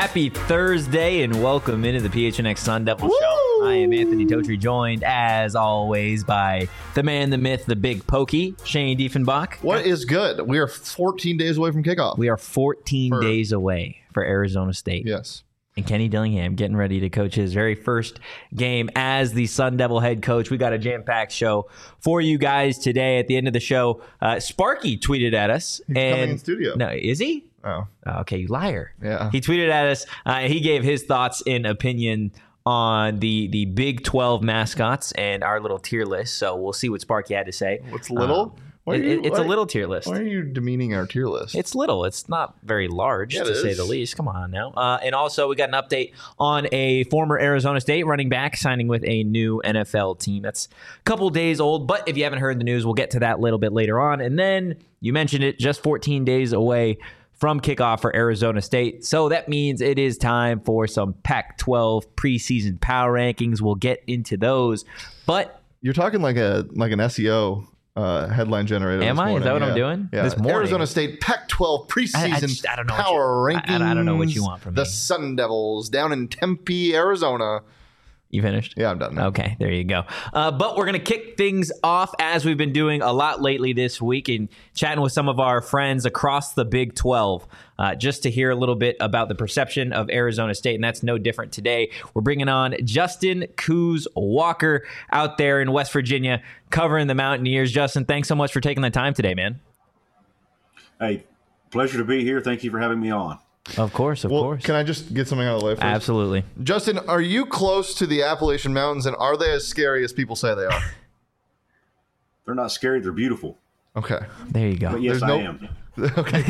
Happy Thursday and welcome into the PHNX Sun Devil Show. I am Anthony Totri, joined as always by the man, the myth, the big pokey, Shane Diefenbach. What is good? We are 14 days away from kickoff. We are 14 days away for Arizona State. Yes. And Kenny Dillingham getting ready to coach his very first game as the Sun Devil head coach. We got a jam-packed show for you guys today. At the end of the show, Sparky tweeted at us. He's coming in studio. No, is he? Oh. Okay, you liar. Yeah. He tweeted at us. He gave his thoughts and opinion on the Big 12 mascots and our little tier list. So we'll see what Sparky had to say. What's little? It's a little tier list. Why are you demeaning our tier list? It's little. It's not very large, to say the least. Come on now. And also, we got an update on a former Arizona State running back signing with a new NFL team. That's a couple days old, but if you haven't heard the news, we'll get to that a little bit later on. And then, you mentioned it, just 14 days away from kickoff for Arizona State. So that means it is time for some Pac-12 preseason power rankings. We'll get into those. But you're talking like an SEO headline generator. Am I? Is that what I'm doing? Yeah. This morning. Arizona State Pac-12 preseason I don't know power rankings. I don't know what you want from me. The Sun Devils down in Tempe, Arizona. You finished? Yeah, I'm done now. Okay, there you go. But we're going to kick things off as we've been doing a lot lately this week and chatting with some of our friends across the Big 12 just to hear a little bit about the perception of Arizona State, and that's no different today. We're bringing on Justin Coos Walker out there in West Virginia covering the Mountaineers. Justin, thanks so much for taking the time today, man. Hey, pleasure to be here. Thank you for having me on. Of course. Can I just get something out of the way first? Absolutely. Justin, are you close to the Appalachian Mountains, and are they as scary as people say they are? They're not scary. They're beautiful. Okay. There you go. But yes, I am. Okay,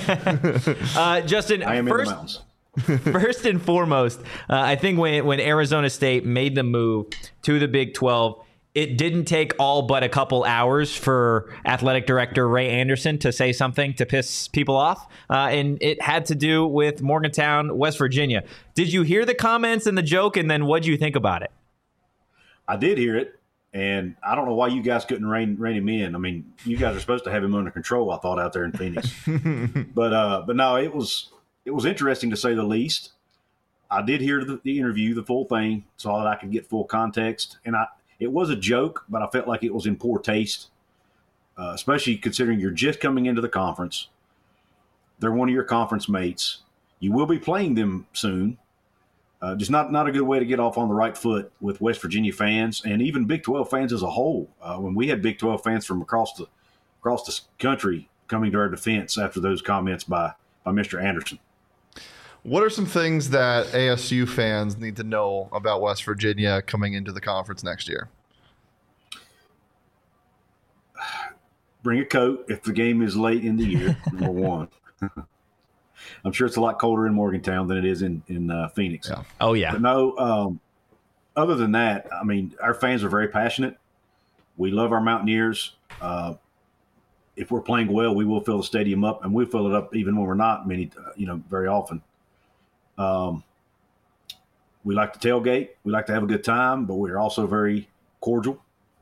good. Justin, I am in the mountains. First and foremost, I think when Arizona State made the move to the Big 12, it didn't take all but a couple hours for athletic director Ray Anderson to say something to piss people off, and it had to do with Morgantown, West Virginia. Did you hear the comments and the joke, and then what did you think about it? I did hear it, and I don't know why you guys couldn't rein him in. I mean, you guys are supposed to have him under control, I thought, out there in Phoenix. But no, it was interesting to say the least. I did hear the interview, the full thing, so that I could get full context, and it was a joke, but I felt like it was in poor taste, especially considering you're just coming into the conference. They're one of your conference mates. You will be playing them soon. Just not a good way to get off on the right foot with West Virginia fans and even Big 12 fans as a whole. When we had Big 12 fans from across the country coming to our defense after those comments by Mr. Anderson. What are some things that ASU fans need to know about West Virginia coming into the conference next year? Bring a coat if the game is late in the year, number one. I'm sure it's a lot colder in Morgantown than it is in Phoenix. Yeah. Oh, yeah. But no, other than that, I mean, our fans are very passionate. We love our Mountaineers. If we're playing well, we will fill the stadium up, and we'll fill it up even when we're not very often. We like to tailgate. We like to have a good time, but we're also very cordial.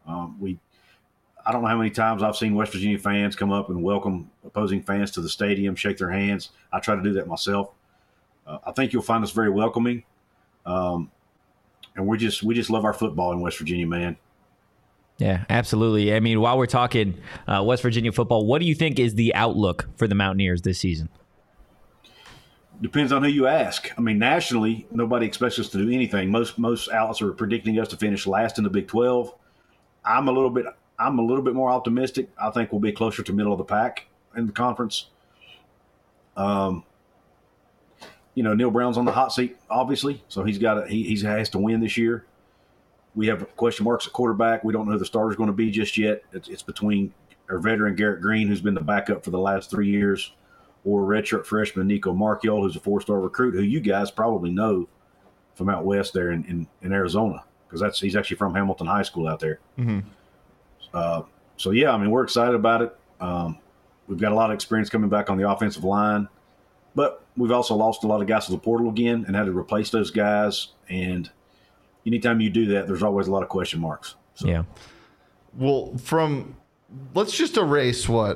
I don't know how many times I've seen West Virginia fans come up and welcome opposing fans to the stadium, shake their hands. I try to do that myself. I think you'll find us very welcoming. And we just love our football in West Virginia, man. Yeah, absolutely. I mean, while we're talking West Virginia football, what do you think is the outlook for the Mountaineers this season? Depends on who you ask. I mean, nationally, nobody expects us to do anything. Most outlets are predicting us to finish last in the Big 12. I'm a little bit more optimistic. I think we'll be closer to middle of the pack in the conference. Neil Brown's on the hot seat, obviously, so he has to win this year. We have question marks at quarterback. We don't know who the starter's going to be just yet. It's between our veteran Garrett Green, who's been the backup for the last 3 years, or redshirt freshman Nico Marchiol, who's a 4-star recruit, who you guys probably know from out west there in Arizona, because he's actually from Hamilton High School out there. Mm-hmm. So, yeah, I mean, we're excited about it. We've got a lot of experience coming back on the offensive line, but we've also lost a lot of guys to the portal again and had to replace those guys. And anytime you do that, there's always a lot of question marks. So. Yeah. Well, let's just erase what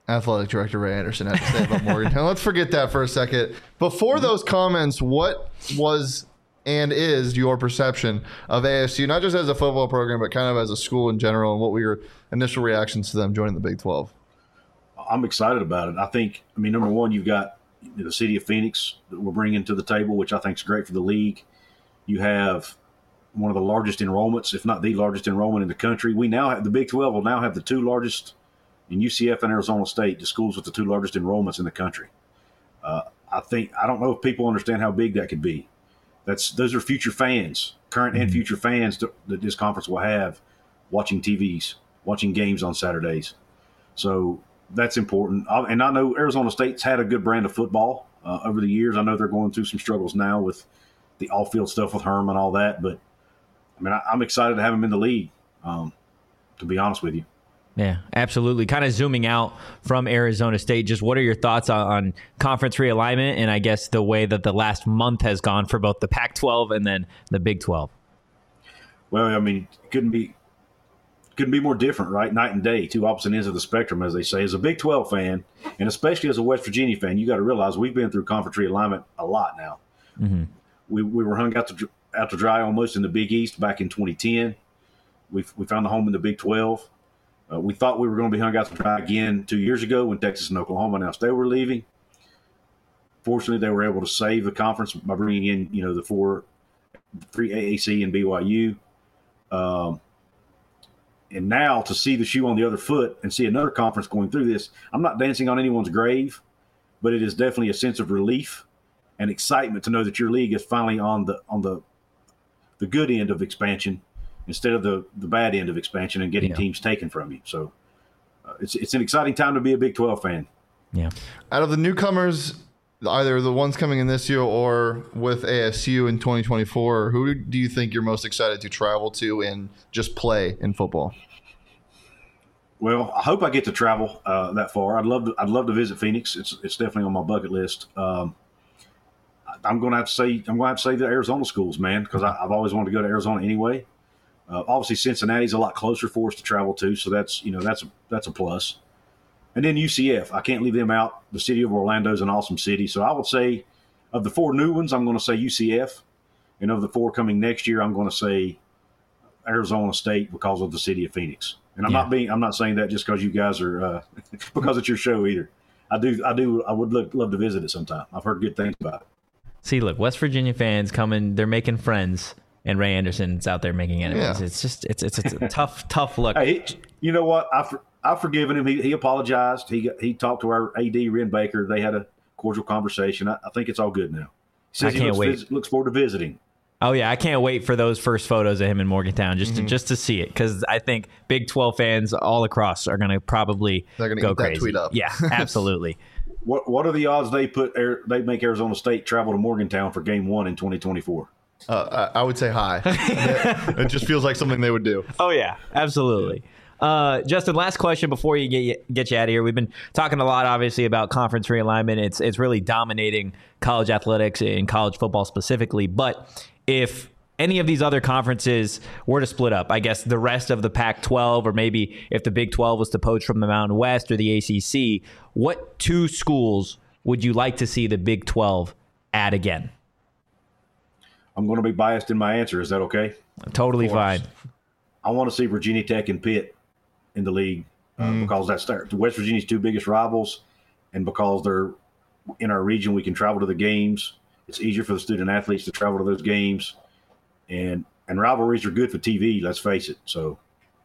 Athletic Director Ray Anderson had to say about Morgantown. Let's forget that for a second. Before those comments, what was and is your perception of ASU, not just as a football program, but kind of as a school in general, and what were your initial reactions to them joining the Big 12? I'm excited about it. Number one, you've got the city of Phoenix that we're bringing to the table, which I think is great for the league. You have one of the largest enrollments, if not the largest enrollment in the country. We now have the Big 12 will now have the two largest in UCF and Arizona State, the schools with the two largest enrollments in the country. I don't know if people understand how big that could be. Those are future fans, current and future fans that this conference will have watching TVs, watching games on Saturdays. So that's important. And I know Arizona State's had a good brand of football over the years. I know they're going through some struggles now with the off-field stuff with Herm and all that. But, I'm excited to have him in the league, to be honest with you. Yeah, absolutely. Kind of zooming out from Arizona State, just what are your thoughts on conference realignment and I guess the way that the last month has gone for both the Pac-12 and then the Big 12? Well, couldn't be more different, right? Night and day, two opposite ends of the spectrum, as they say. As a Big 12 fan, and especially as a West Virginia fan, you got to realize we've been through conference realignment a lot now. Mm-hmm. We were hung out to dry almost in the Big East back in 2010. We found a home in the Big 12. We thought we were going to be hung out to dry again 2 years ago when Texas and Oklahoma announced they were leaving. Fortunately, they were able to save the conference by bringing in, the three AAC and BYU. And now to see the shoe on the other foot and see another conference going through this, I'm not dancing on anyone's grave, but it is definitely a sense of relief and excitement to know that your league is finally on the good end of expansion instead of the bad end of expansion and getting teams taken from you. So it's an exciting time to be a Big 12 fan. Yeah. Out of the newcomers, either the ones coming in this year or with ASU in 2024, who do you think you're most excited to travel to and just play in football? Well, I hope I get to travel that far. I'd love to visit Phoenix. It's definitely on my bucket list. I'm going to have to say the Arizona schools, man, because I've always wanted to go to Arizona anyway. Obviously, Cincinnati's a lot closer for us to travel to, so that's a plus. And then UCF, I can't leave them out. The city of Orlando is an awesome city, so I would say of the four new ones, I'm going to say UCF, and of the four coming next year, I'm going to say Arizona State because of the city of Phoenix. And I'm not saying that just because you guys are because it's your show either. I would love to visit it sometime. I've heard good things about it. See, look, West Virginia fans coming, they're making friends. And Ray Anderson's out there making enemies. Yeah. It's a tough look. Hey, you know what? I've forgiven him. He apologized. He talked to our AD, Ren Baker. They had a cordial conversation. I think it's all good now. He says he looks forward to visiting. Oh yeah, I can't wait for those first photos of him in Morgantown just to see it, because I think Big 12 fans all across are going to probably go crazy. That tweet up. Yeah, absolutely. What are the odds they make Arizona State travel to Morgantown for Game 1 in 2024? I would say high. It just feels like something they would do. Oh yeah, absolutely. Justin, last question before you get you out of here. We've been talking a lot, obviously, about conference realignment. It's really dominating college athletics and college football specifically. But if any of these other conferences were to split up, I guess the rest of the Pac-12, or maybe if the Big 12 was to poach from the Mountain West or the ACC, what two schools would you like to see the Big 12 add again? I'm going to be biased in my answer. Is that okay? Totally fine. I want to see Virginia Tech and Pitt in the league because that's West Virginia's two biggest rivals, and because they're in our region, we can travel to the games. It's easier for the student athletes to travel to those games, and rivalries are good for TV. Let's face it. So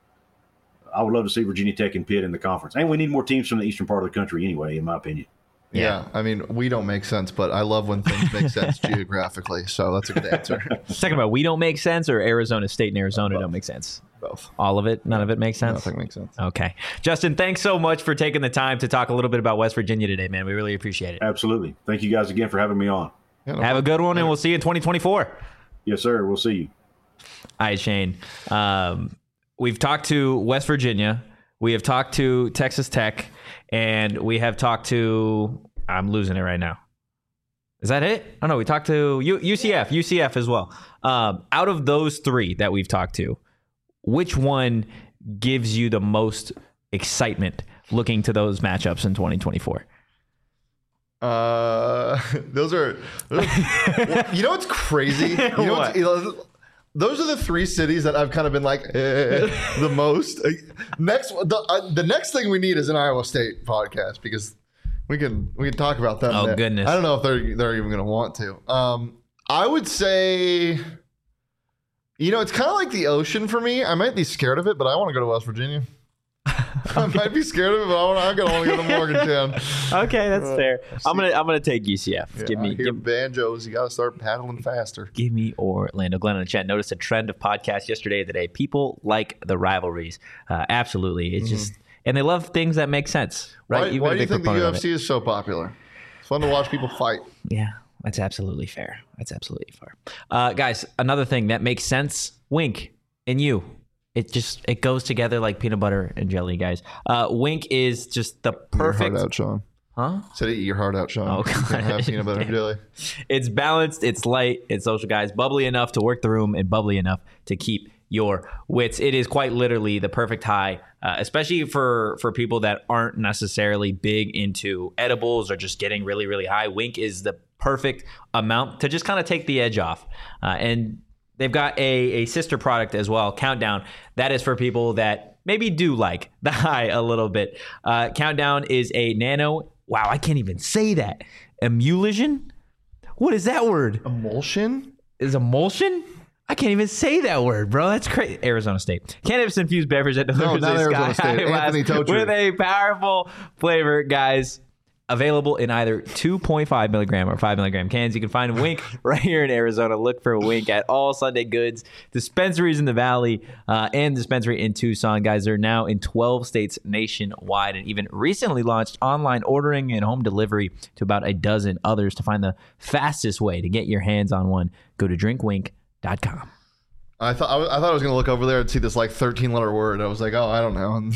I would love to see Virginia Tech and Pitt in the conference, and we need more teams from the eastern part of the country anyway, in my opinion. Yeah, I mean, we don't make sense, but I love when things make sense geographically, so that's a good answer. Talking about we don't make sense, or Arizona State and Arizona don't make sense? Both. All of it? None of it makes sense? Nothing makes sense. Okay. Justin, thanks so much for taking the time to talk a little bit about West Virginia today, man. We really appreciate it. Absolutely. Thank you guys again for having me on. Yeah, Have a good one, and we'll see you in 2024. Yes, sir. We'll see you. All right, Shane. We've talked to West Virginia. We have talked to Texas Tech, and we have talked to... I'm losing it right now. Is that it? Oh, no, we talked to UCF as well. Out of those three that we've talked to, which one gives you the most excitement looking to those matchups in 2024? Those are you know what's crazy? Those are the three cities that I've kind of been like the most. The next thing we need is an Iowa State podcast because we can talk about them. Oh, goodness. I don't know if they're even going to want to. I would say, it's kind of like the ocean for me. I might be scared of it, but I want to go to West Virginia. I might be scared of it, but I'm gonna want to go to Morgantown. Okay, that's fair. I'm gonna take UCF. Yeah, give me banjos. You got to start paddling faster. Give me Orlando. Glenn in the chat noticed a trend of podcasts yesterday and today. People like the rivalries. Absolutely, it's just, and they love things that make sense, right? Why do you think the UFC is so popular? It's fun to watch people fight. Yeah, that's absolutely fair. Guys, another thing that makes sense. Wink and you. It goes together like peanut butter and jelly, guys. Wink is just the perfect. Eat your heart out, Sean. Huh? Said eat your heart out, Sean. Oh, God. Can't have peanut butter and jelly. It's balanced, it's light, it's social, guys. Bubbly enough to work the room and bubbly enough to keep your wits. It is quite literally the perfect high, especially for people that aren't necessarily big into edibles or just getting really, really high. Wink is the perfect amount to just kind of take the edge off. And they've got a sister product as well, Countdown. That is for people that maybe do like the high a little bit. Countdown is a nano. Wow, I can't even say that. Emulsion? What is that word? Emulsion? Is emulsion? I can't even say that word, bro. That's crazy. Arizona State. Cannabis-infused beverage that delivers not Arizona State. Anthony Totri. With a powerful flavor, guys. Available in either 2.5 milligram or 5 milligram cans. You can find Wink right here in Arizona. Look for Wink at all Sunday Goods dispensaries in the Valley and dispensary in Tucson. Guys, they're now in 12 states nationwide and even recently launched online ordering and home delivery to about a dozen others. To find the fastest way to get your hands on one, go to drinkwink.com. I thought I was going to look over there and see this like 13-letter word. I was like, oh, I don't know.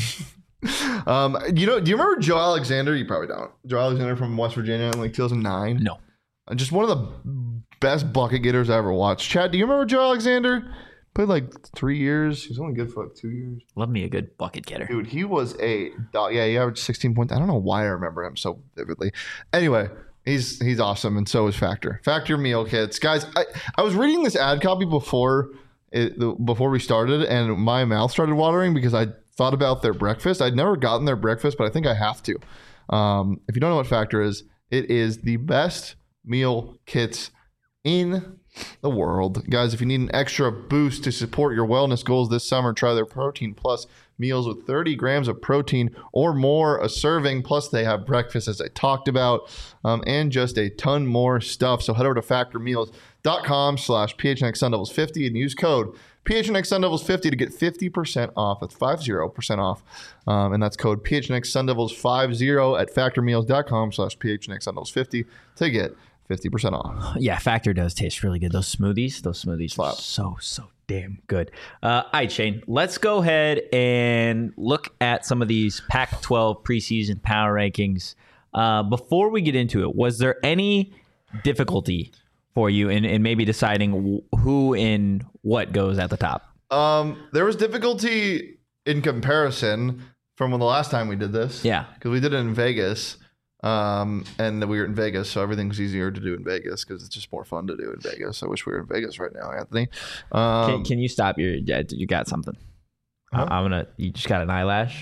Do you remember Joe Alexander? You probably don't. Joe Alexander from West Virginia in like 2009. No. Just one of the best bucket getters I ever watched. Chad, do you remember Joe Alexander? Played like 3 years. He was only good for like 2 years. Love me a good bucket getter. Dude, he was he averaged 16 points. I don't know why I remember him so vividly. Anyway, he's awesome, and so is Factor. Factor meal kits. Guys, I was reading this ad copy before we started, and my mouth started watering because I thought about their breakfast. I'd never gotten their breakfast, but I think I have to. If you don't know what Factor is, it is the best meal kits in the world. Guys, if you need an extra boost to support your wellness goals this summer, try their Protein Plus meals with 30 grams of protein or more a serving. Plus, they have breakfast, as I talked about, and just a ton more stuff. So head over to factormeals.com/PHNX Sun Devils50 and use code PHNX Sun Devils 50 to get 50% off. That's 50% off. And that's code PHNX Sun Devils 50 at factormeals.com/PHNX Sun Devils 50 to get 50% off. Yeah, Factor does taste really good. Those smoothies are so damn good. All right, Shane, let's go ahead and look at some of these Pac-12 preseason power rankings. Before we get into it, was there any difficulty for you in maybe deciding who and what goes at the top? There was difficulty in comparison from the last time we did this. Yeah. Because we did it in Vegas. And we were in Vegas, so everything's easier to do in Vegas because it's just more fun to do in Vegas. I wish we were in Vegas right now, Anthony. Can you stop you got something? Huh? You just got an eyelash.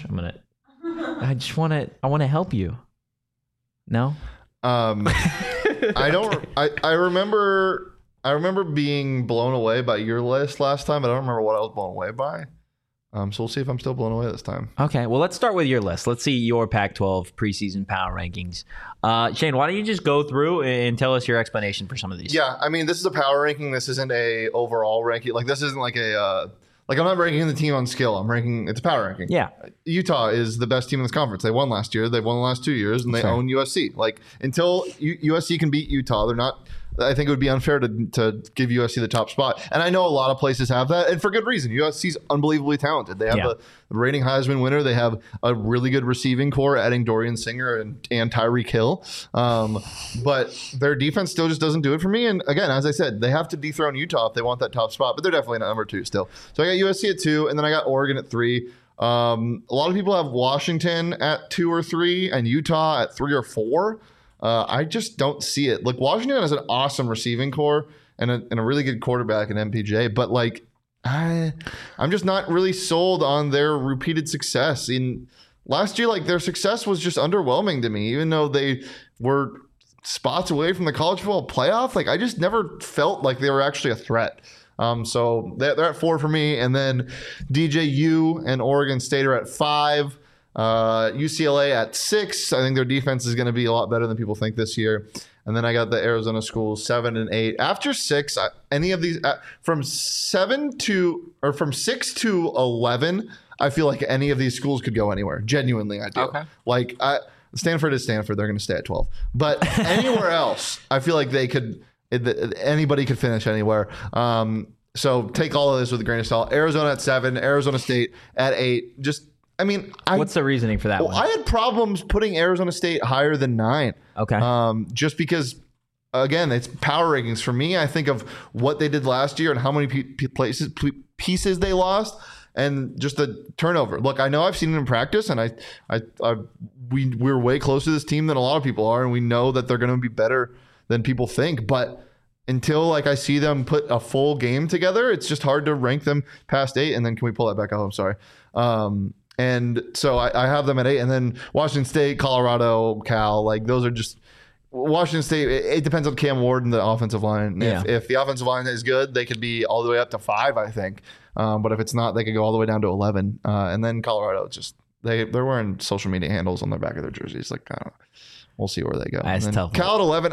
I want to help you. No? I remember being blown away by your list last time, but I don't remember what I was blown away by. So we'll see if I'm still blown away this time. Okay, well, let's start with your list. Let's see your Pac-12 preseason power rankings. Shane, why don't you just go through and tell us your explanation for some of these? Yeah, I mean, this is a power ranking. This isn't a overall ranking. Like, this isn't like I'm not ranking the team on skill. It's a power ranking. Yeah. Utah is the best team in this conference. They won last year. They've won the last 2 years, and they own USC. Like, until USC can beat Utah, they're not. I think it would be unfair to give USC the top spot. And I know a lot of places have that, and for good reason. USC's unbelievably talented. They have the reigning Heisman winner. They have a really good receiving core, adding Dorian Singer and Tyreek Hill. But their defense still just doesn't do it for me. And again, as I said, they have to dethrone Utah if they want that top spot, but they're definitely not number 2 still. So I got USC at 2, and then I got Oregon at 3. A lot of people have Washington at 2 or 3 and Utah at 3 or 4. I just don't see it. Like, Washington has an awesome receiving core and a really good quarterback in MPJ, but like, I'm just not really sold on their repeated success. In last year, like, their success was just underwhelming to me, even though they were spots away from the college football playoff. Like, I just never felt like they were actually a threat. So they're at 4 for me. And then DJU and Oregon State are at 5. UCLA at 6. I think their defense is going to be a lot better than people think this year. And then I got the Arizona schools 7 and 8. After 6, any of these from 6 to 11, I feel like any of these schools could go anywhere. Genuinely, I do. Okay. Like, Stanford is Stanford. They're going to stay at 12. But anywhere else, I feel like they could. Anybody could finish anywhere. So take all of this with a grain of salt. Arizona at 7. Arizona State at 8. What's the reasoning for that one? I had problems putting Arizona State higher than 9. Okay. Just because, again, it's power rankings. For me, I think of what they did last year and how many pieces they lost, and just the turnover. Look, I know I've seen it in practice, and we're way closer to this team than a lot of people are, and we know that they're going to be better than people think. But until I see them put a full game together, it's just hard to rank them past 8. And then can we pull that back up? I'm sorry. And so I have them at 8, and then Washington State, Colorado, Cal, like those are just Washington State. It depends on Cam Ward and the offensive line. Yeah. If the offensive line is good, they could be all the way up to 5, I think. But if it's not, they could go all the way down to 11. And then Colorado, just they're wearing social media handles on the back of their jerseys. Like, I don't know. We'll see where they go. That's tough. Cal at 11.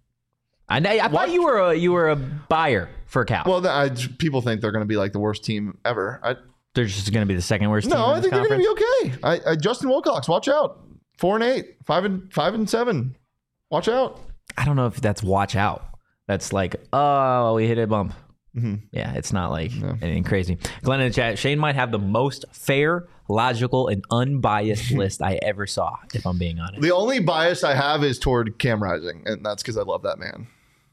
I thought you were a buyer for Cal. Well, people think they're going to be like the worst team ever. They're just going to be the second worst team. No, I think conference? they're going to be okay. Justin Wilcox, watch out. 4 and 8, 5 and 7. Watch out. I don't know if that's watch out. That's like, oh, we hit a bump. Mm-hmm. Yeah, it's not like anything crazy. Glenn in the chat, Shane might have the most fair, logical, and unbiased list I ever saw, if I'm being honest. The only bias I have is toward Cam Rising, and that's because I love that man.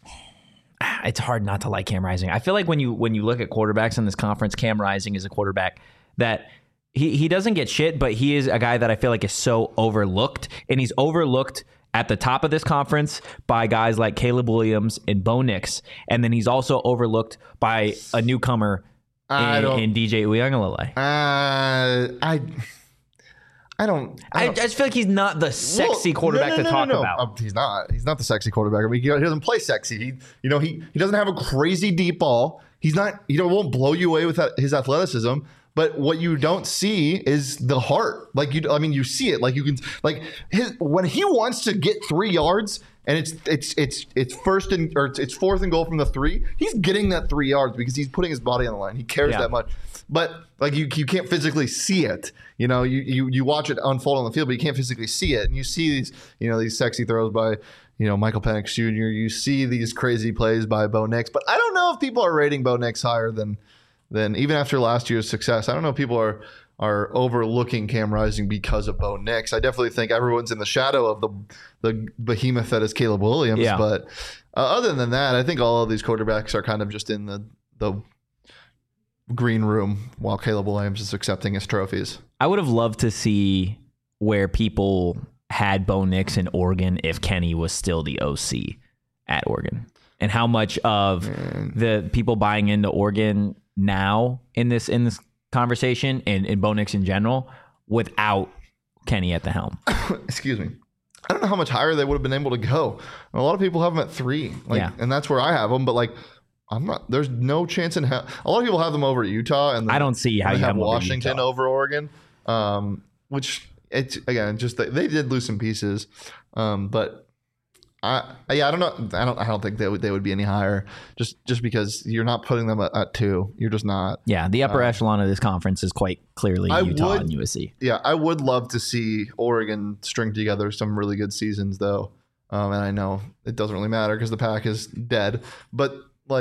It's hard not to like Cam Rising. I feel like when you look at quarterbacks in this conference, Cam Rising is a quarterback that he doesn't get shit, but he is a guy that I feel like is so overlooked, and he's overlooked at the top of this conference by guys like Caleb Williams and Bo Nix, and then he's also overlooked by a newcomer in DJ Uiagalelei. I just feel like he's not the sexy quarterback to talk about. He's not. He's not the sexy quarterback. I mean, he doesn't play sexy. He doesn't have a crazy deep ball. He's not. Won't blow you away with his athleticism. But what you don't see is the heart. Like you see it. Like you can when he wants to get 3 yards and it's fourth and goal from the 3. He's getting that 3 yards because he's putting his body on the line. He cares that much. But like you can't physically see it. You watch it unfold on the field, but you can't physically see it. And you see these sexy throws by Michael Penix Jr. You see these crazy plays by Bo Nix. But I don't know if people are rating Bo Nix higher than even after last year's success. I don't know if people are overlooking Cam Rising because of Bo Nix. I definitely think everyone's in the shadow of the behemoth that is Caleb Williams. Yeah. But other than that, I think all of these quarterbacks are kind of just in the green room while Caleb Williams is accepting his trophies. I would have loved to see where people had Bo Nix in Oregon if Kenny was still the OC at Oregon, and how much of the people buying into Oregon now in this conversation and Bo Nix in general without Kenny at the helm. Excuse me. I don't know how much higher they would have been able to go. A lot of people have them at 3, and that's where I have them. But I'm not. There's no chance in hell. A lot of people have them over Utah, and I don't see how you have Washington over Oregon. Which it's again just they did lose some pieces, but. I don't know. I don't think they would be any higher just because you're not putting them at 2. You're just not. Yeah, the upper echelon of this conference is quite clearly Utah and USC. Yeah, I would love to see Oregon string together some really good seasons though. And I know it doesn't really matter because the Pac is dead. But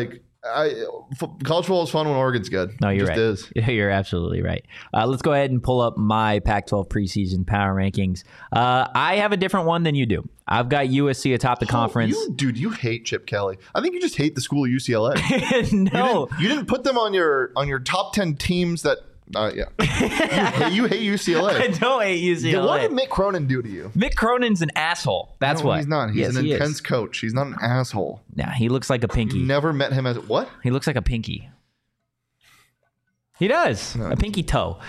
college football is fun when Oregon's good. No, you're right. Is. You're absolutely right. Let's go ahead and pull up my Pac-12 preseason power rankings. I have a different one than you do. I've got USC atop the conference. You hate Chip Kelly. I think you just hate the school of UCLA. No, you didn't put them on your top 10 teams that Yeah. You hate UCLA. I don't hate UCLA. What did Mick Cronin do to you? Mick Cronin's an asshole. That's what. He's not. He's an intense coach. He's not an asshole. Yeah, he looks like a pinky. Never met him as what? He looks like a pinky. He does. No. A pinky toe.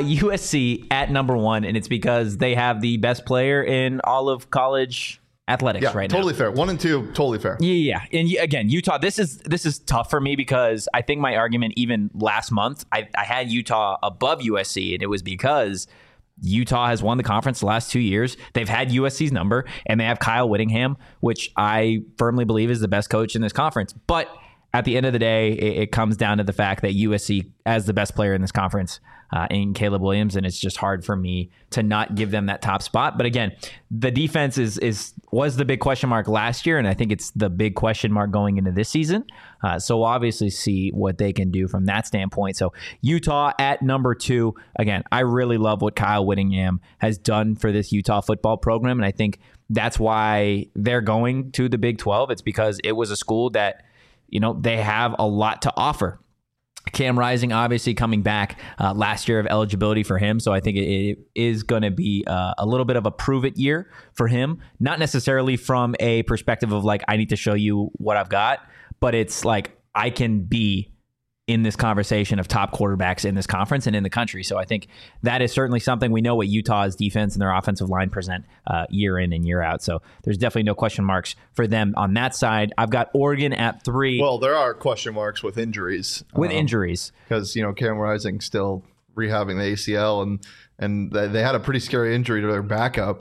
USC at number 1, and it's because they have the best player in all of college athletics right now. Totally fair. 1 and 2, totally fair. Yeah. And again, Utah, this is tough for me because I think my argument even last month, I had Utah above USC, and it was because Utah has won the conference the last 2 years. They've had USC's number, and they have Kyle Whittingham, which I firmly believe is the best coach in this conference. But at the end of the day, it comes down to the fact that USC has the best player in this conference in Caleb Williams, and it's just hard for me to not give them that top spot. But again, the defense was the big question mark last year, and I think it's the big question mark going into this season. So we'll obviously see what they can do from that standpoint. So Utah at number 2. Again, I really love what Kyle Whittingham has done for this Utah football program, and I think that's why they're going to the Big 12. It's because it was a school that they have a lot to offer. Cam Rising obviously coming back last year of eligibility for him. So I think it is going to be a little bit of a prove it year for him. Not necessarily from a perspective of like, I need to show you what I've got, but it's like I can be in this conversation of top quarterbacks in this conference and in the country. So I think that is certainly something. We know what Utah's defense and their offensive line present year in and year out. So there's definitely no question marks for them on that side. I've got Oregon at 3. Well, there are question marks with injuries. Because, Cam Rising still rehabbing the ACL, and they had a pretty scary injury to their backup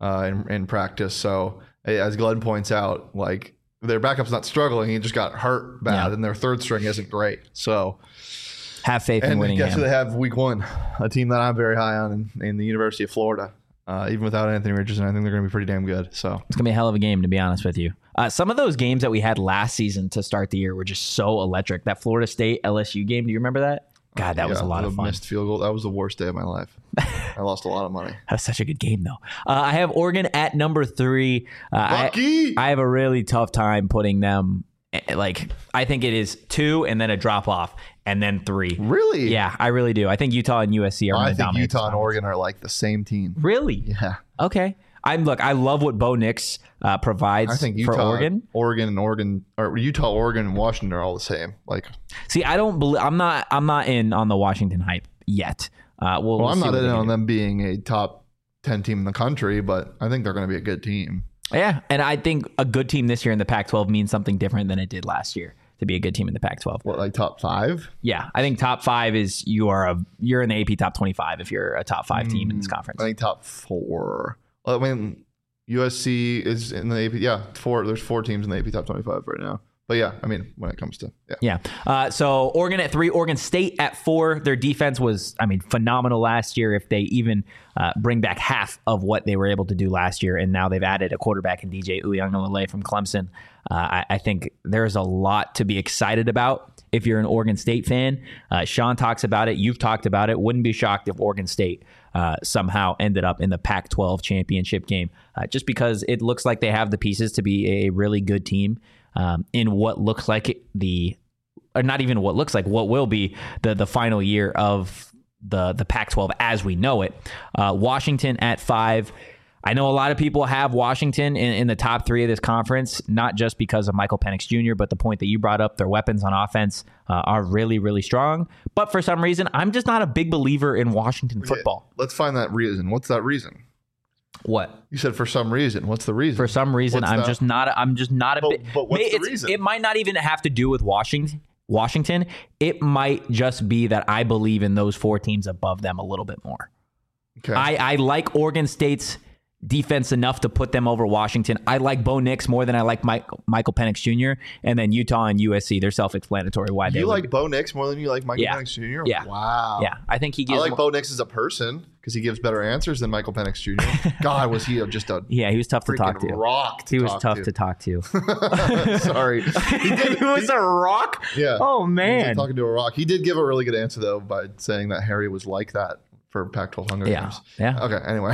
in practice. So as Glenn points out, like, their backup's not struggling. He just got hurt bad, and their third string isn't great. So have faith in Whittingham. And guess who they have week 1? A team that I'm very high on in the University of Florida. Even without Anthony Richardson, I think they're going to be pretty damn good. So it's going to be a hell of a game, to be honest with you. Some of those games that we had last season to start the year were just so electric. That Florida State LSU game, do you remember that? God, that was a lot of fun. Missed field goal. That was the worst day of my life. I lost a lot of money. That was such a good game, though. I have Oregon at number 3. Lucky. I have a really tough time putting them. Like, I think it is 2 and then a drop off and then 3. Really? Yeah, I really do. I think Utah and USC are. I think Utah and Oregon are like the same team. Really? Yeah. Okay. I love what Bo Nix provides. I think Utah, for Oregon, or Utah, Oregon, and Washington are all the same. Like, see, I don't believe. I'm not in on the Washington hype yet. We'll I'm not in on them being a top 10 team in the country, but I think they're going to be a good team. Yeah, and I think a good team this year in the Pac-12 means something different than it did last year to be a good team in the Pac-12. What, like top 5? Yeah, I think top 5 is you're in the AP top 25 if you're a top 5 team in this conference. I think top 4. I mean, USC is in the AP. Yeah, 4. There's 4 teams in the AP top 25 right now. But yeah, I mean, when it comes to so Oregon at 3, Oregon State at 4. Their defense was, phenomenal last year. If they even bring back half of what they were able to do last year, and now they've added a quarterback in DJ Uiagalelei from Clemson. I think there's a lot to be excited about if you're an Oregon State fan. Sean talks about it. You've talked about it. Wouldn't be shocked if Oregon State somehow ended up in the Pac-12 championship game, just because it looks like they have the pieces to be a really good team. In what looks like what will be the final year of the Pac-12 as we know it. Washington at 5. I know a lot of people have Washington in the top 3 of this conference, not just because of Michael Penix Jr., but the point that you brought up, their weapons on offense are really, really strong. But for some reason, I'm just not a big believer in Washington football. Let's find that reason. What's that reason? What? You said for some reason. What's the reason? For some reason, I'm just not a bit. But what's the reason? It might not even have to do with Washington. It might just be that I believe in those 4 teams above them a little bit more. Okay. I like Oregon State's defense enough to put them over Washington. I like Bo Nix more than I like Michael Penix Jr. And then Utah and USC, they're self-explanatory why they like Bo Nix more than you like Michael Penix Jr.? Yeah. Wow. Yeah. I think he gives. I like Bo Nix as a person because he gives better answers than Michael Penix Jr. God, was he just a he was tough to talk to. He was tough to talk to. Sorry. He was a rock? Yeah. Oh, man. He was talking to a rock. He did give a really good answer, though, by saying that Harry was like that for Pac-12 Hunger Games. Yeah. Okay. Anyway,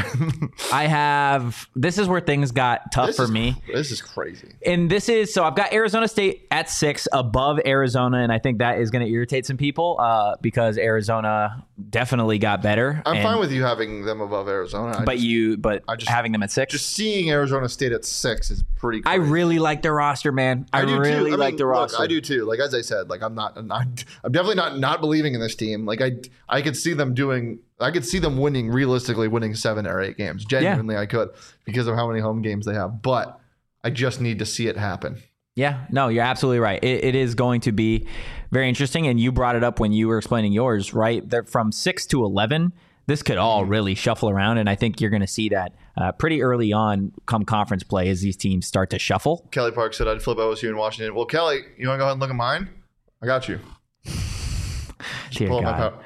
this is where things got tough for me. This is crazy. And so I've got Arizona State at 6 above Arizona, and I think that is going to irritate some people because Arizona definitely got better. I'm fine with you having them above Arizona. But having them at 6. Just seeing Arizona State at 6 is pretty crazy. I really like their roster, man. I really like their roster. I do too. Like as I said, like I'm definitely not believing in this team. Like I could see them realistically winning 7 or 8 games. Genuinely, I could because of how many home games they have. But I just need to see it happen. Yeah, no, you're absolutely right. It is going to be very interesting. And you brought it up when you were explaining yours, right? They're from 6 to 11. This could all really shuffle around. And I think you're going to see that pretty early on come conference play as these teams start to shuffle. Kelly Park said I'd flip OSU in Washington. Well, Kelly, you want to go ahead and look at mine? I got you. Dear God.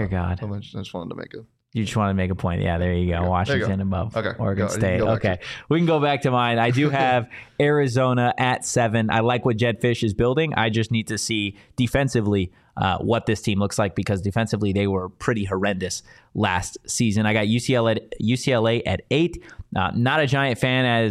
I just wanted to make it. You just want to make a point. Yeah, there you go. Washington above Oregon State. Okay. We can go back to mine. I do have Arizona at 7. I like what Jedd Fisch is building. I just need to see defensively what this team looks like because defensively they were pretty horrendous last season. I got UCLA at 8. Not a giant fan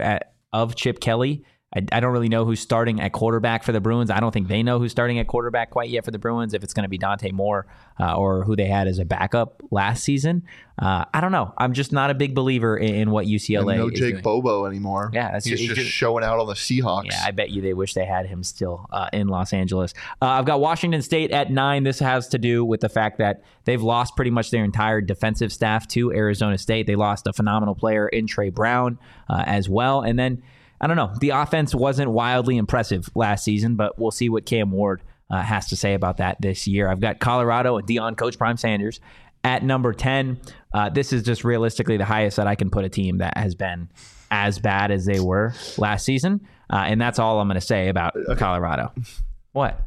of Chip Kelly. I don't really know who's starting at quarterback for the Bruins. I don't think they know who's starting at quarterback quite yet for the Bruins, if it's going to be Dante Moore or who they had as a backup last season. I don't know. I'm just not a big believer in what UCLA is doing. No Jake Bobo anymore. Yeah, he's just showing out on the Seahawks. Yeah, I bet you they wish they had him still in Los Angeles. I've got Washington State at 9. This has to do with the fact that they've lost pretty much their entire defensive staff to Arizona State. They lost a phenomenal player in Trey Brown as well. And then I don't know. The offense wasn't wildly impressive last season, but we'll see what Cam Ward has to say about that this year. I've got Colorado and Deion Coach Prime Sanders at number 10. This is just realistically the highest that I can put a team that has been as bad as they were last season. And that's all I'm going to say about Colorado. What?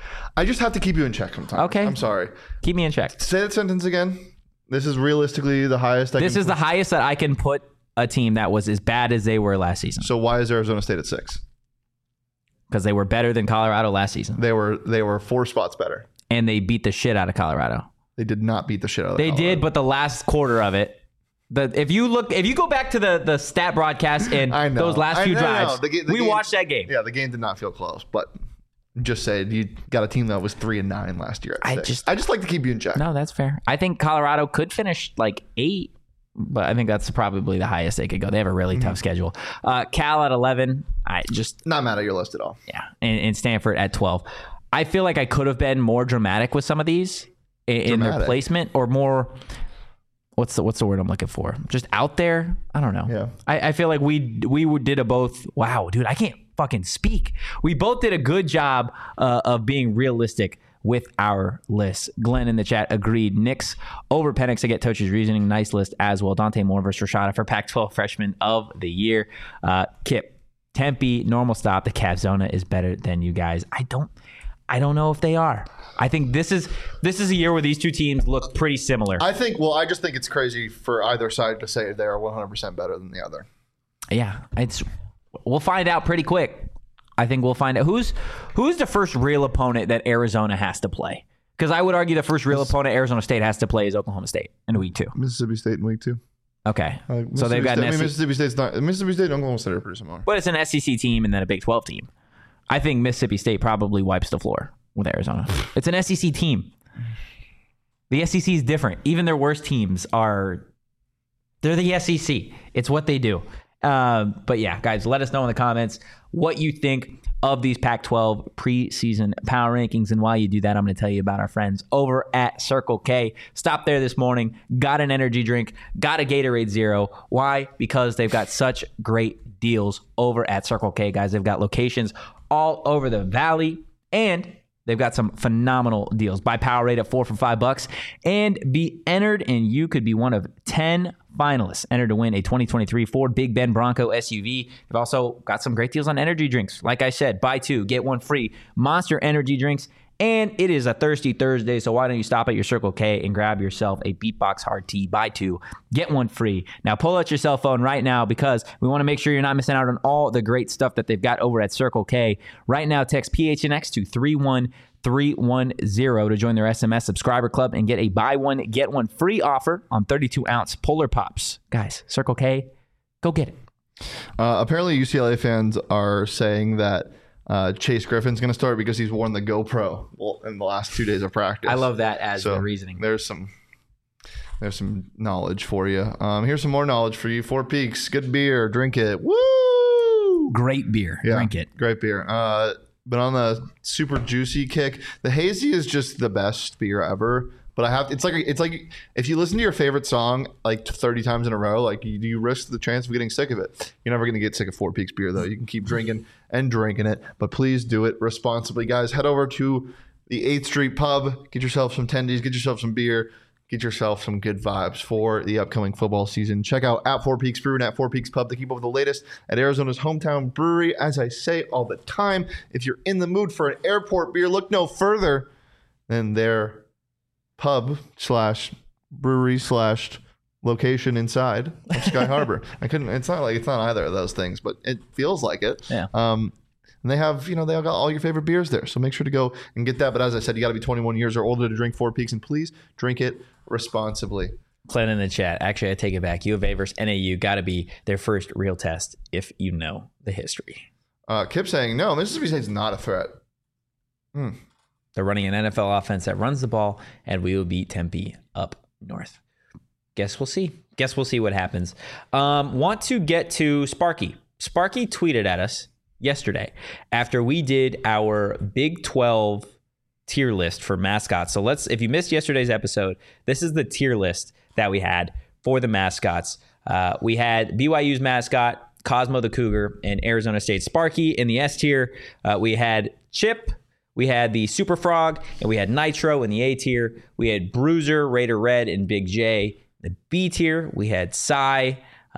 I just have to keep you in check sometimes. Okay. I'm sorry. Keep me in check. Say that sentence again. This is realistically the highest. This is the highest that I can put a team that was as bad as they were last season. So why is Arizona State at 6? Because they were better than Colorado last season. They were 4 spots better. And they beat the shit out of Colorado. They did not beat the shit out of Colorado. They did, but the last quarter of it, if you go back to the stat broadcast and those last few drives, we watched that game. Yeah, the game did not feel close, but just say you got a team that was 3-9 last year. I just like to keep you in check. No, that's fair. I think Colorado could finish like 8. But I think that's probably the highest they could go. They have a really tough schedule. Cal at 11. I just not mad at your list at all. Yeah, and Stanford at 12. I feel like I could have been more dramatic with some of these in their placement, or more. What's the word I'm looking for? Just out there. I don't know. Yeah. I feel like we did a both. Wow, dude, I can't fucking speak. We both did a good job of being realistic with our list. Glenn in the chat agreed. Knicks over Penix. I get Tochi's reasoning. Nice list as well. Dante Moore versus Rashada for Pac-12 Freshman of the Year. Kip, Tempe, normal stop. The Cavs-Zona is better than you guys. I don't know if they are. I think this is a year where these two teams look pretty similar. I just think it's crazy for either side to say they are 100% better than the other. Yeah, we'll find out pretty quick. I think we'll find out who's the first real opponent that Arizona has to play. Because I would argue the first real opponent Arizona State has to play is Oklahoma State in week 2. Mississippi State in week 2. Okay, so they've got Mississippi State and Oklahoma State are pretty similar. But it's an SEC team and then a Big 12 team. I think Mississippi State probably wipes the floor with Arizona. It's an SEC team. The SEC is different. Even their worst teams they're the SEC. It's what they do. But yeah, guys, let us know in the comments what you think of these Pac-12 preseason power rankings. And while you do that, I'm going to tell you about our friends over at Circle K. Stopped there this morning, got an energy drink, got a Gatorade Zero. Why? Because they've got such great deals over at Circle K, guys. They've got locations all over the valley, and they've got some phenomenal deals. Buy Powerade at 4 for $5 and be entered, and you could be one of 10 finalists entered to win a 2023 Ford Big Bend Bronco SUV. They've also got some great deals on energy drinks. Like I said, buy 2, get 1 free. Monster energy drinks. And it is a Thirsty Thursday, so why don't you stop at your Circle K and grab yourself a Beatbox Hard Tea, buy 2, get 1 free. Now pull out your cell phone right now because we want to make sure you're not missing out on all the great stuff that they've got over at Circle K. Right now, text PHNX to 313 310 to join their SMS subscriber club and get a buy one, get one free offer on 32-ounce Polar Pops. Guys, Circle K, go get it. Apparently, UCLA fans are saying that Chase Griffin's going to start because he's worn the GoPro in the last 2 days of practice. I love that as the reasoning. There's some knowledge for you. Here's some more knowledge for you. Four Peaks, good beer, drink it. Woo! Great beer, drink it. Great beer. But on the super juicy kick, the hazy is just the best beer ever. But it's like if you listen to your favorite song like 30 times in a row, like you risk the chance of getting sick of it. You're never going to get sick of Four Peaks beer though. You can keep drinking and drinking it, but please do it responsibly, guys. Head over to the 8th Street Pub, get yourself some tendies, get yourself some beer, get yourself some good vibes for the upcoming football season. Check out at Four Peaks Brew and at Four Peaks Pub to keep up with the latest at Arizona's hometown brewery. As I say all the time, if you're in the mood for an airport beer, look no further than their pub / brewery / location inside of Sky Harbor. It's not either of those things, but it feels like it. Yeah. And they have, they all got all your favorite beers there. So make sure to go and get that. But as I said, you got to be 21 years or older to drink Four Peaks, and please drink it responsibly. Glenn in the chat. Actually, I take it back. U of A versus NAU got to be their first real test if you know the history. Kip saying, no, Mississippi State's not a threat. They're running an NFL offense that runs the ball, and we will beat Tempe up north. Guess we'll see. Guess we'll see what happens. Want to get to Sparky. Sparky tweeted at us yesterday after we did our Big 12 tier list for mascots. So if you missed yesterday's episode, this is the tier list that we had for the mascots. We had BYU's mascot, Cosmo the Cougar, and Arizona State Sparky. In the S tier, we had Chip, we had the Super Frog, and we had Nitro in the A tier. We had Bruiser, Raider Red, and Big J. The B tier, we had Psy,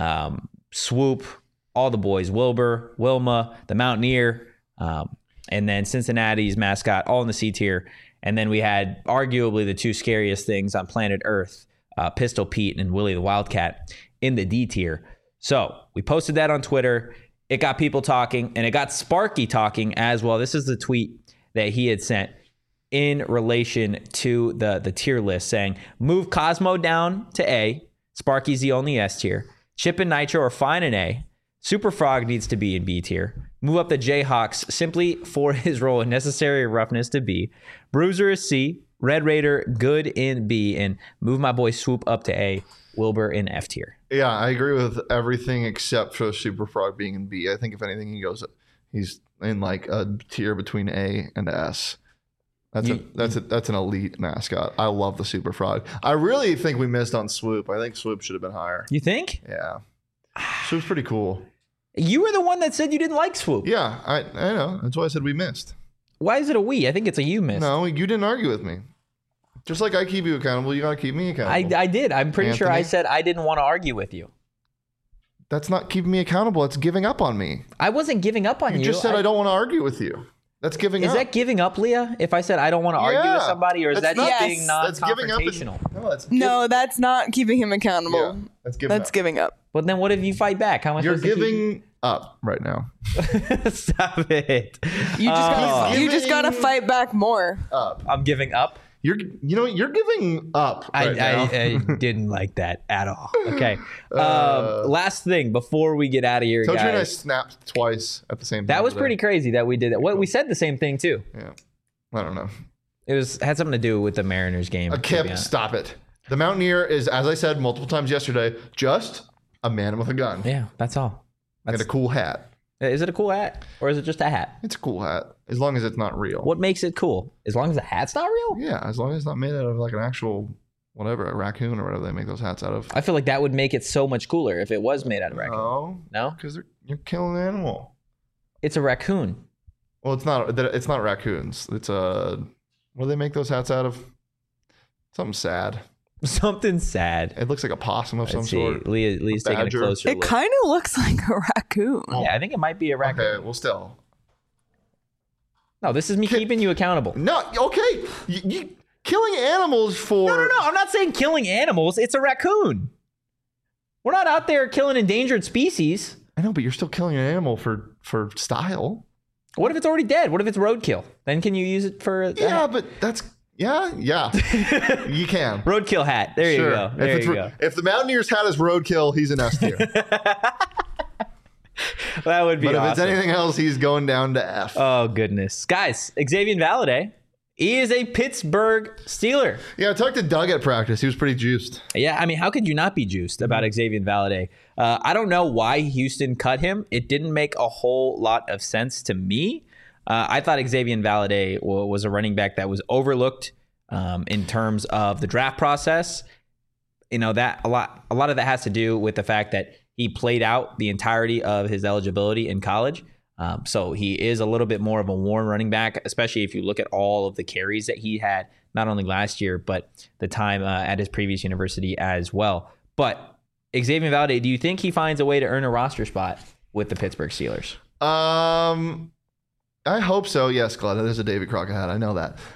Swoop, all the boys, Wilbur, Wilma, the Mountaineer, and then Cincinnati's mascot, all in the C tier. And then we had arguably the two scariest things on planet Earth, Pistol Pete and Willie the Wildcat, in the D tier. So we posted that on Twitter. It got people talking, and it got Sparky talking as well. This is the tweet that he had sent in relation to the tier list, saying, move Cosmo down to A. Sparky's the only S tier. Chip and Nitro are fine in A. Super Frog needs to be in B tier. Move up the Jayhawks simply for his role in necessary roughness to B. Bruiser is C. Red Raider, good in B. And move my boy Swoop up to A. Wilbur in F tier. Yeah, I agree with everything except for Super Frog being in B. I think if anything, he's in like a tier between A and S. That's an elite mascot. I love the Super Frog. I really think we missed on Swoop. I think Swoop should have been higher. You think? Yeah. Swoop's pretty cool. You were the one that said you didn't like Swoop. Yeah, I know. That's why I said we missed. Why is it a we? I think it's a you missed. No, you didn't argue with me. Just like I keep you accountable, you got to keep me accountable. I did. I'm pretty sure I said I didn't want to argue with you. That's not keeping me accountable. It's giving up on me. I wasn't giving up on you. You just said I don't want to argue with you. That's giving up. Is that giving up, Leah? If I said I don't want to argue with somebody, or is that just being non-confrontational? No, that's not keeping him accountable. Yeah, that's giving up. But then what if you fight back? How am I You're giving up right now. Stop it. You just gotta fight back more. I'm giving up. You're giving up. I didn't like that at all. Okay. Last thing before we get out of here, Told guys. you and I snapped twice at the same time. That was pretty crazy that we did that. We said the same thing too. Yeah. I don't know. It had something to do with the Mariners game. Kip, stop it. The Mountaineer is, as I said multiple times yesterday, just a man with a gun. Yeah, that's all. And a cool hat. Is it a cool hat? Or is it just a hat? It's a cool hat. As long as it's not real. What makes it cool? As long as the hat's not real? Yeah, as long as it's not made out of like an actual, whatever, a raccoon or whatever they make those hats out of. I feel like that would make it so much cooler if it was made out of raccoon. No? Because you're killing an animal. It's a raccoon. Well, it's not raccoons. It's what do they make those hats out of? Something sad. Something sad. It looks like a possum of some sort. Leah's taking a closer look. It kind of looks like a raccoon. Yeah, I think it might be a raccoon. Okay, well, still. No, this is me keeping you accountable. No, okay. You killing animals for... No. I'm not saying killing animals. It's a raccoon. We're not out there killing endangered species. I know, but you're still killing an animal for style. What if it's already dead? What if it's roadkill? Then can you use it for? Yeah, but that's yeah. You can Roadkill hat. There you go. There you go. If the Mountaineers hat is roadkill, he's an S tier. That would be But awesome. if it's anything else, he's going down to F. Oh, goodness. Guys, Xavier Valade, he is a Pittsburgh Steeler. Yeah, I talked to Doug at practice. He was pretty juiced. Yeah, I mean, how could you not be juiced about Xavier Valade? I don't know why Houston cut him. It didn't make a whole lot of sense to me. I thought Xavier Valade was a running back that was overlooked in terms of the draft process. You know, that a lot of that has to do with the fact that he played out the entirety of his eligibility in college. So he is a little bit more of a worn running back, especially if you look at all of the carries that he had, not only last year, but the time at his previous university as well. But Xavier Valade, do you think he finds a way to earn a roster spot with the Pittsburgh Steelers? I hope so. Yes, Glad. There's a David Crockett hat. I know that.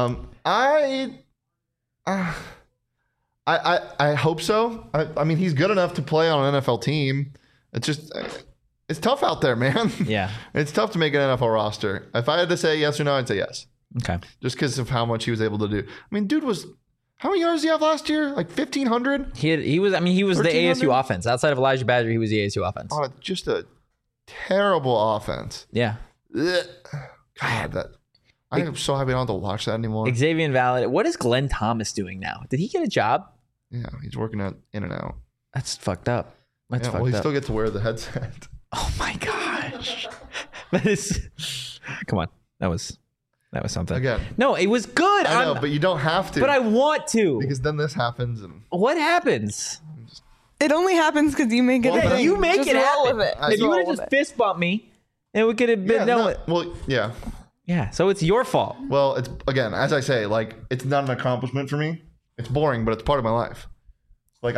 I hope so. I mean, he's good enough to play on an NFL team. It's just, it's tough out there, man. Yeah. It's tough to make an NFL roster. If I had to say yes or no, I'd say yes. Okay. Just because of how much he was able to do. I mean, dude was, how many yards did he have last year? Like 1,500? He was the ASU offense. Outside of Elijah Badger, he was the ASU offense. Oh, just a terrible offense. Yeah. Ugh. God, I am so happy I don't have to watch that anymore. Xavier Valade. What is Glenn Thomas doing now? Did he get a job? Yeah, he's working out in and out. That's fucked up. That's Yeah, fucked well, he up. still gets to wear the headset. Oh my gosh. That is. Come on. That was something. Again. No, it was good. I know, but you don't have to. But I want to. Because then this happens. And What happens? It only happens because you make it. Well, a then thing. You make Just it roll happen. with it. If you would have roll just with it. fist bumped me, and we could have been done with. Well, yeah. Yeah. So it's your fault. Well, it's, again, as I say, like, it's not an accomplishment for me. It's boring, but it's part of my life. Like,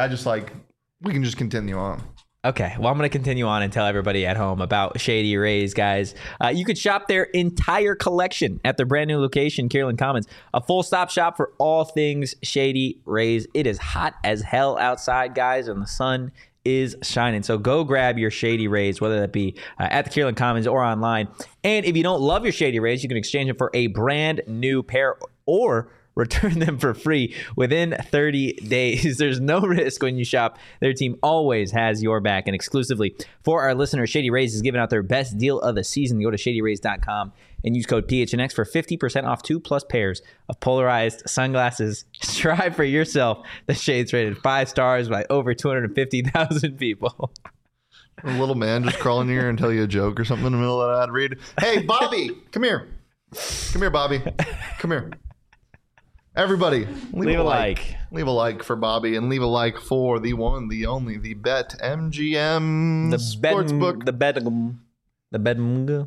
we can just continue on. Okay, well, I'm going to continue on and tell everybody at home about Shady Rays, guys. You could shop their entire collection at their brand new location, Kierland Commons. A full-stop shop for all things Shady Rays. It is hot as hell outside, guys, and the sun is shining. So go grab your Shady Rays, whether that be at the Kierland Commons or online. And if you don't love your Shady Rays, you can exchange them for a brand new pair or return them for free within 30 days. There's no risk when you shop. Their team always has your back. And exclusively for our listeners, Shady Rays is giving out their best deal of the season. Go to shadyrays.com and use code PHNX for 50% off 2+ pairs of polarized sunglasses. Strive for yourself. The Shades rated 5 stars by over 250,000 people. A little man just crawl in here and tell you a joke or something in the middle of that ad read. Hey, Bobby, come here. Come here, Bobby. Come here. Everybody, leave a like. Leave a like for Bobby and leave a like for the one, the only, the BetMGM Sportsbook. The BetMGM.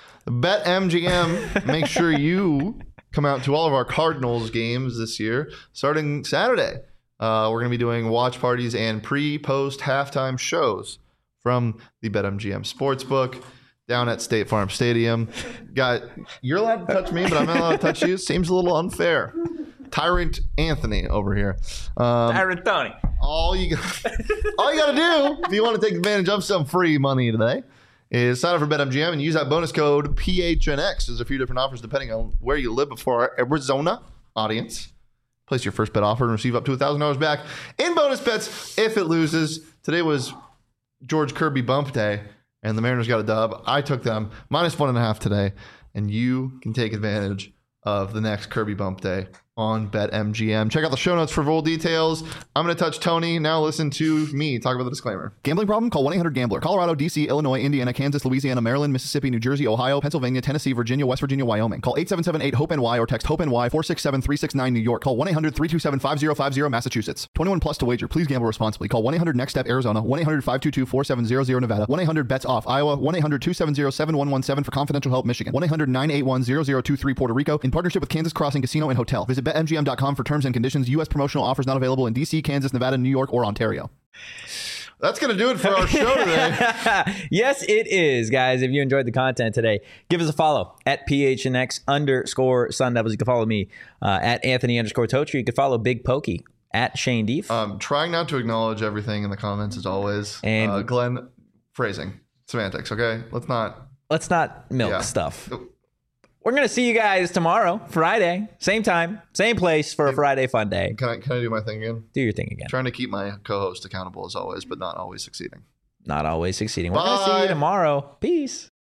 BetMGM. Make sure you come out to all of our Cardinals games this year, starting Saturday. We're going to be doing watch parties and pre-post halftime shows from the BetMGM Sportsbook down at State Farm Stadium. You're allowed to touch me, but I'm not allowed to touch you. Seems a little unfair. Tyrant Anthony over here. Tyrant Tony. All you got to do if you want to take advantage of some free money today is sign up for BetMGM and use that bonus code PHNX. There's a few different offers depending on where you live before our Arizona audience. Place your first bet offer and receive up to $1,000 back in bonus bets if it loses. Today was George Kirby bump day, and the Mariners got a dub. I took them -1.5 today, and you can take advantage of the next Kirby bump day on BetMGM. Check out the show notes for full details. I'm going to touch Tony. Now listen to me talk about the disclaimer. Gambling problem? Call 1-800-GAMBLER. Colorado, D.C., Illinois, Indiana, Kansas, Louisiana, Maryland, Mississippi, New Jersey, Ohio, Pennsylvania, Tennessee, Virginia, West Virginia, Wyoming. Call 877-8-HOPE-NY or text HOPE-NY 467-369 New York. Call 1-800-327-5050 Massachusetts. 21 plus to wager. Please gamble responsibly. Call 1-800-NEXT-STEP Arizona. 1-800-522-4700 Nevada. 1-800-BETS-OFF Iowa. 1-800-270-7117 for confidential help Michigan. 1-800-981-0023 Puerto Rico in partnership with Kansas Crossing Casino and Hotel. Visit BetMGM.com for terms and conditions. U.S. promotional offers not available in D.C., Kansas, Nevada, New York, or Ontario. That's going to do it for our show today. Yes, it is, guys. If you enjoyed the content today, give us a follow at PHNX_Sun Devils. You can follow me at Anthony_Totri. You can follow Big Pokey at Shane Deef. Trying not to acknowledge everything in the comments as always. And Glenn, phrasing, semantics, okay? Let's not let's not milk Yeah. stuff. We're going to see you guys tomorrow, Friday, same time, same place for a Friday fun day. Can I do my thing again? Do your thing again. Trying to keep my co-host accountable as always, but not always succeeding. Not always succeeding. We're going to see Bye. you tomorrow. Peace.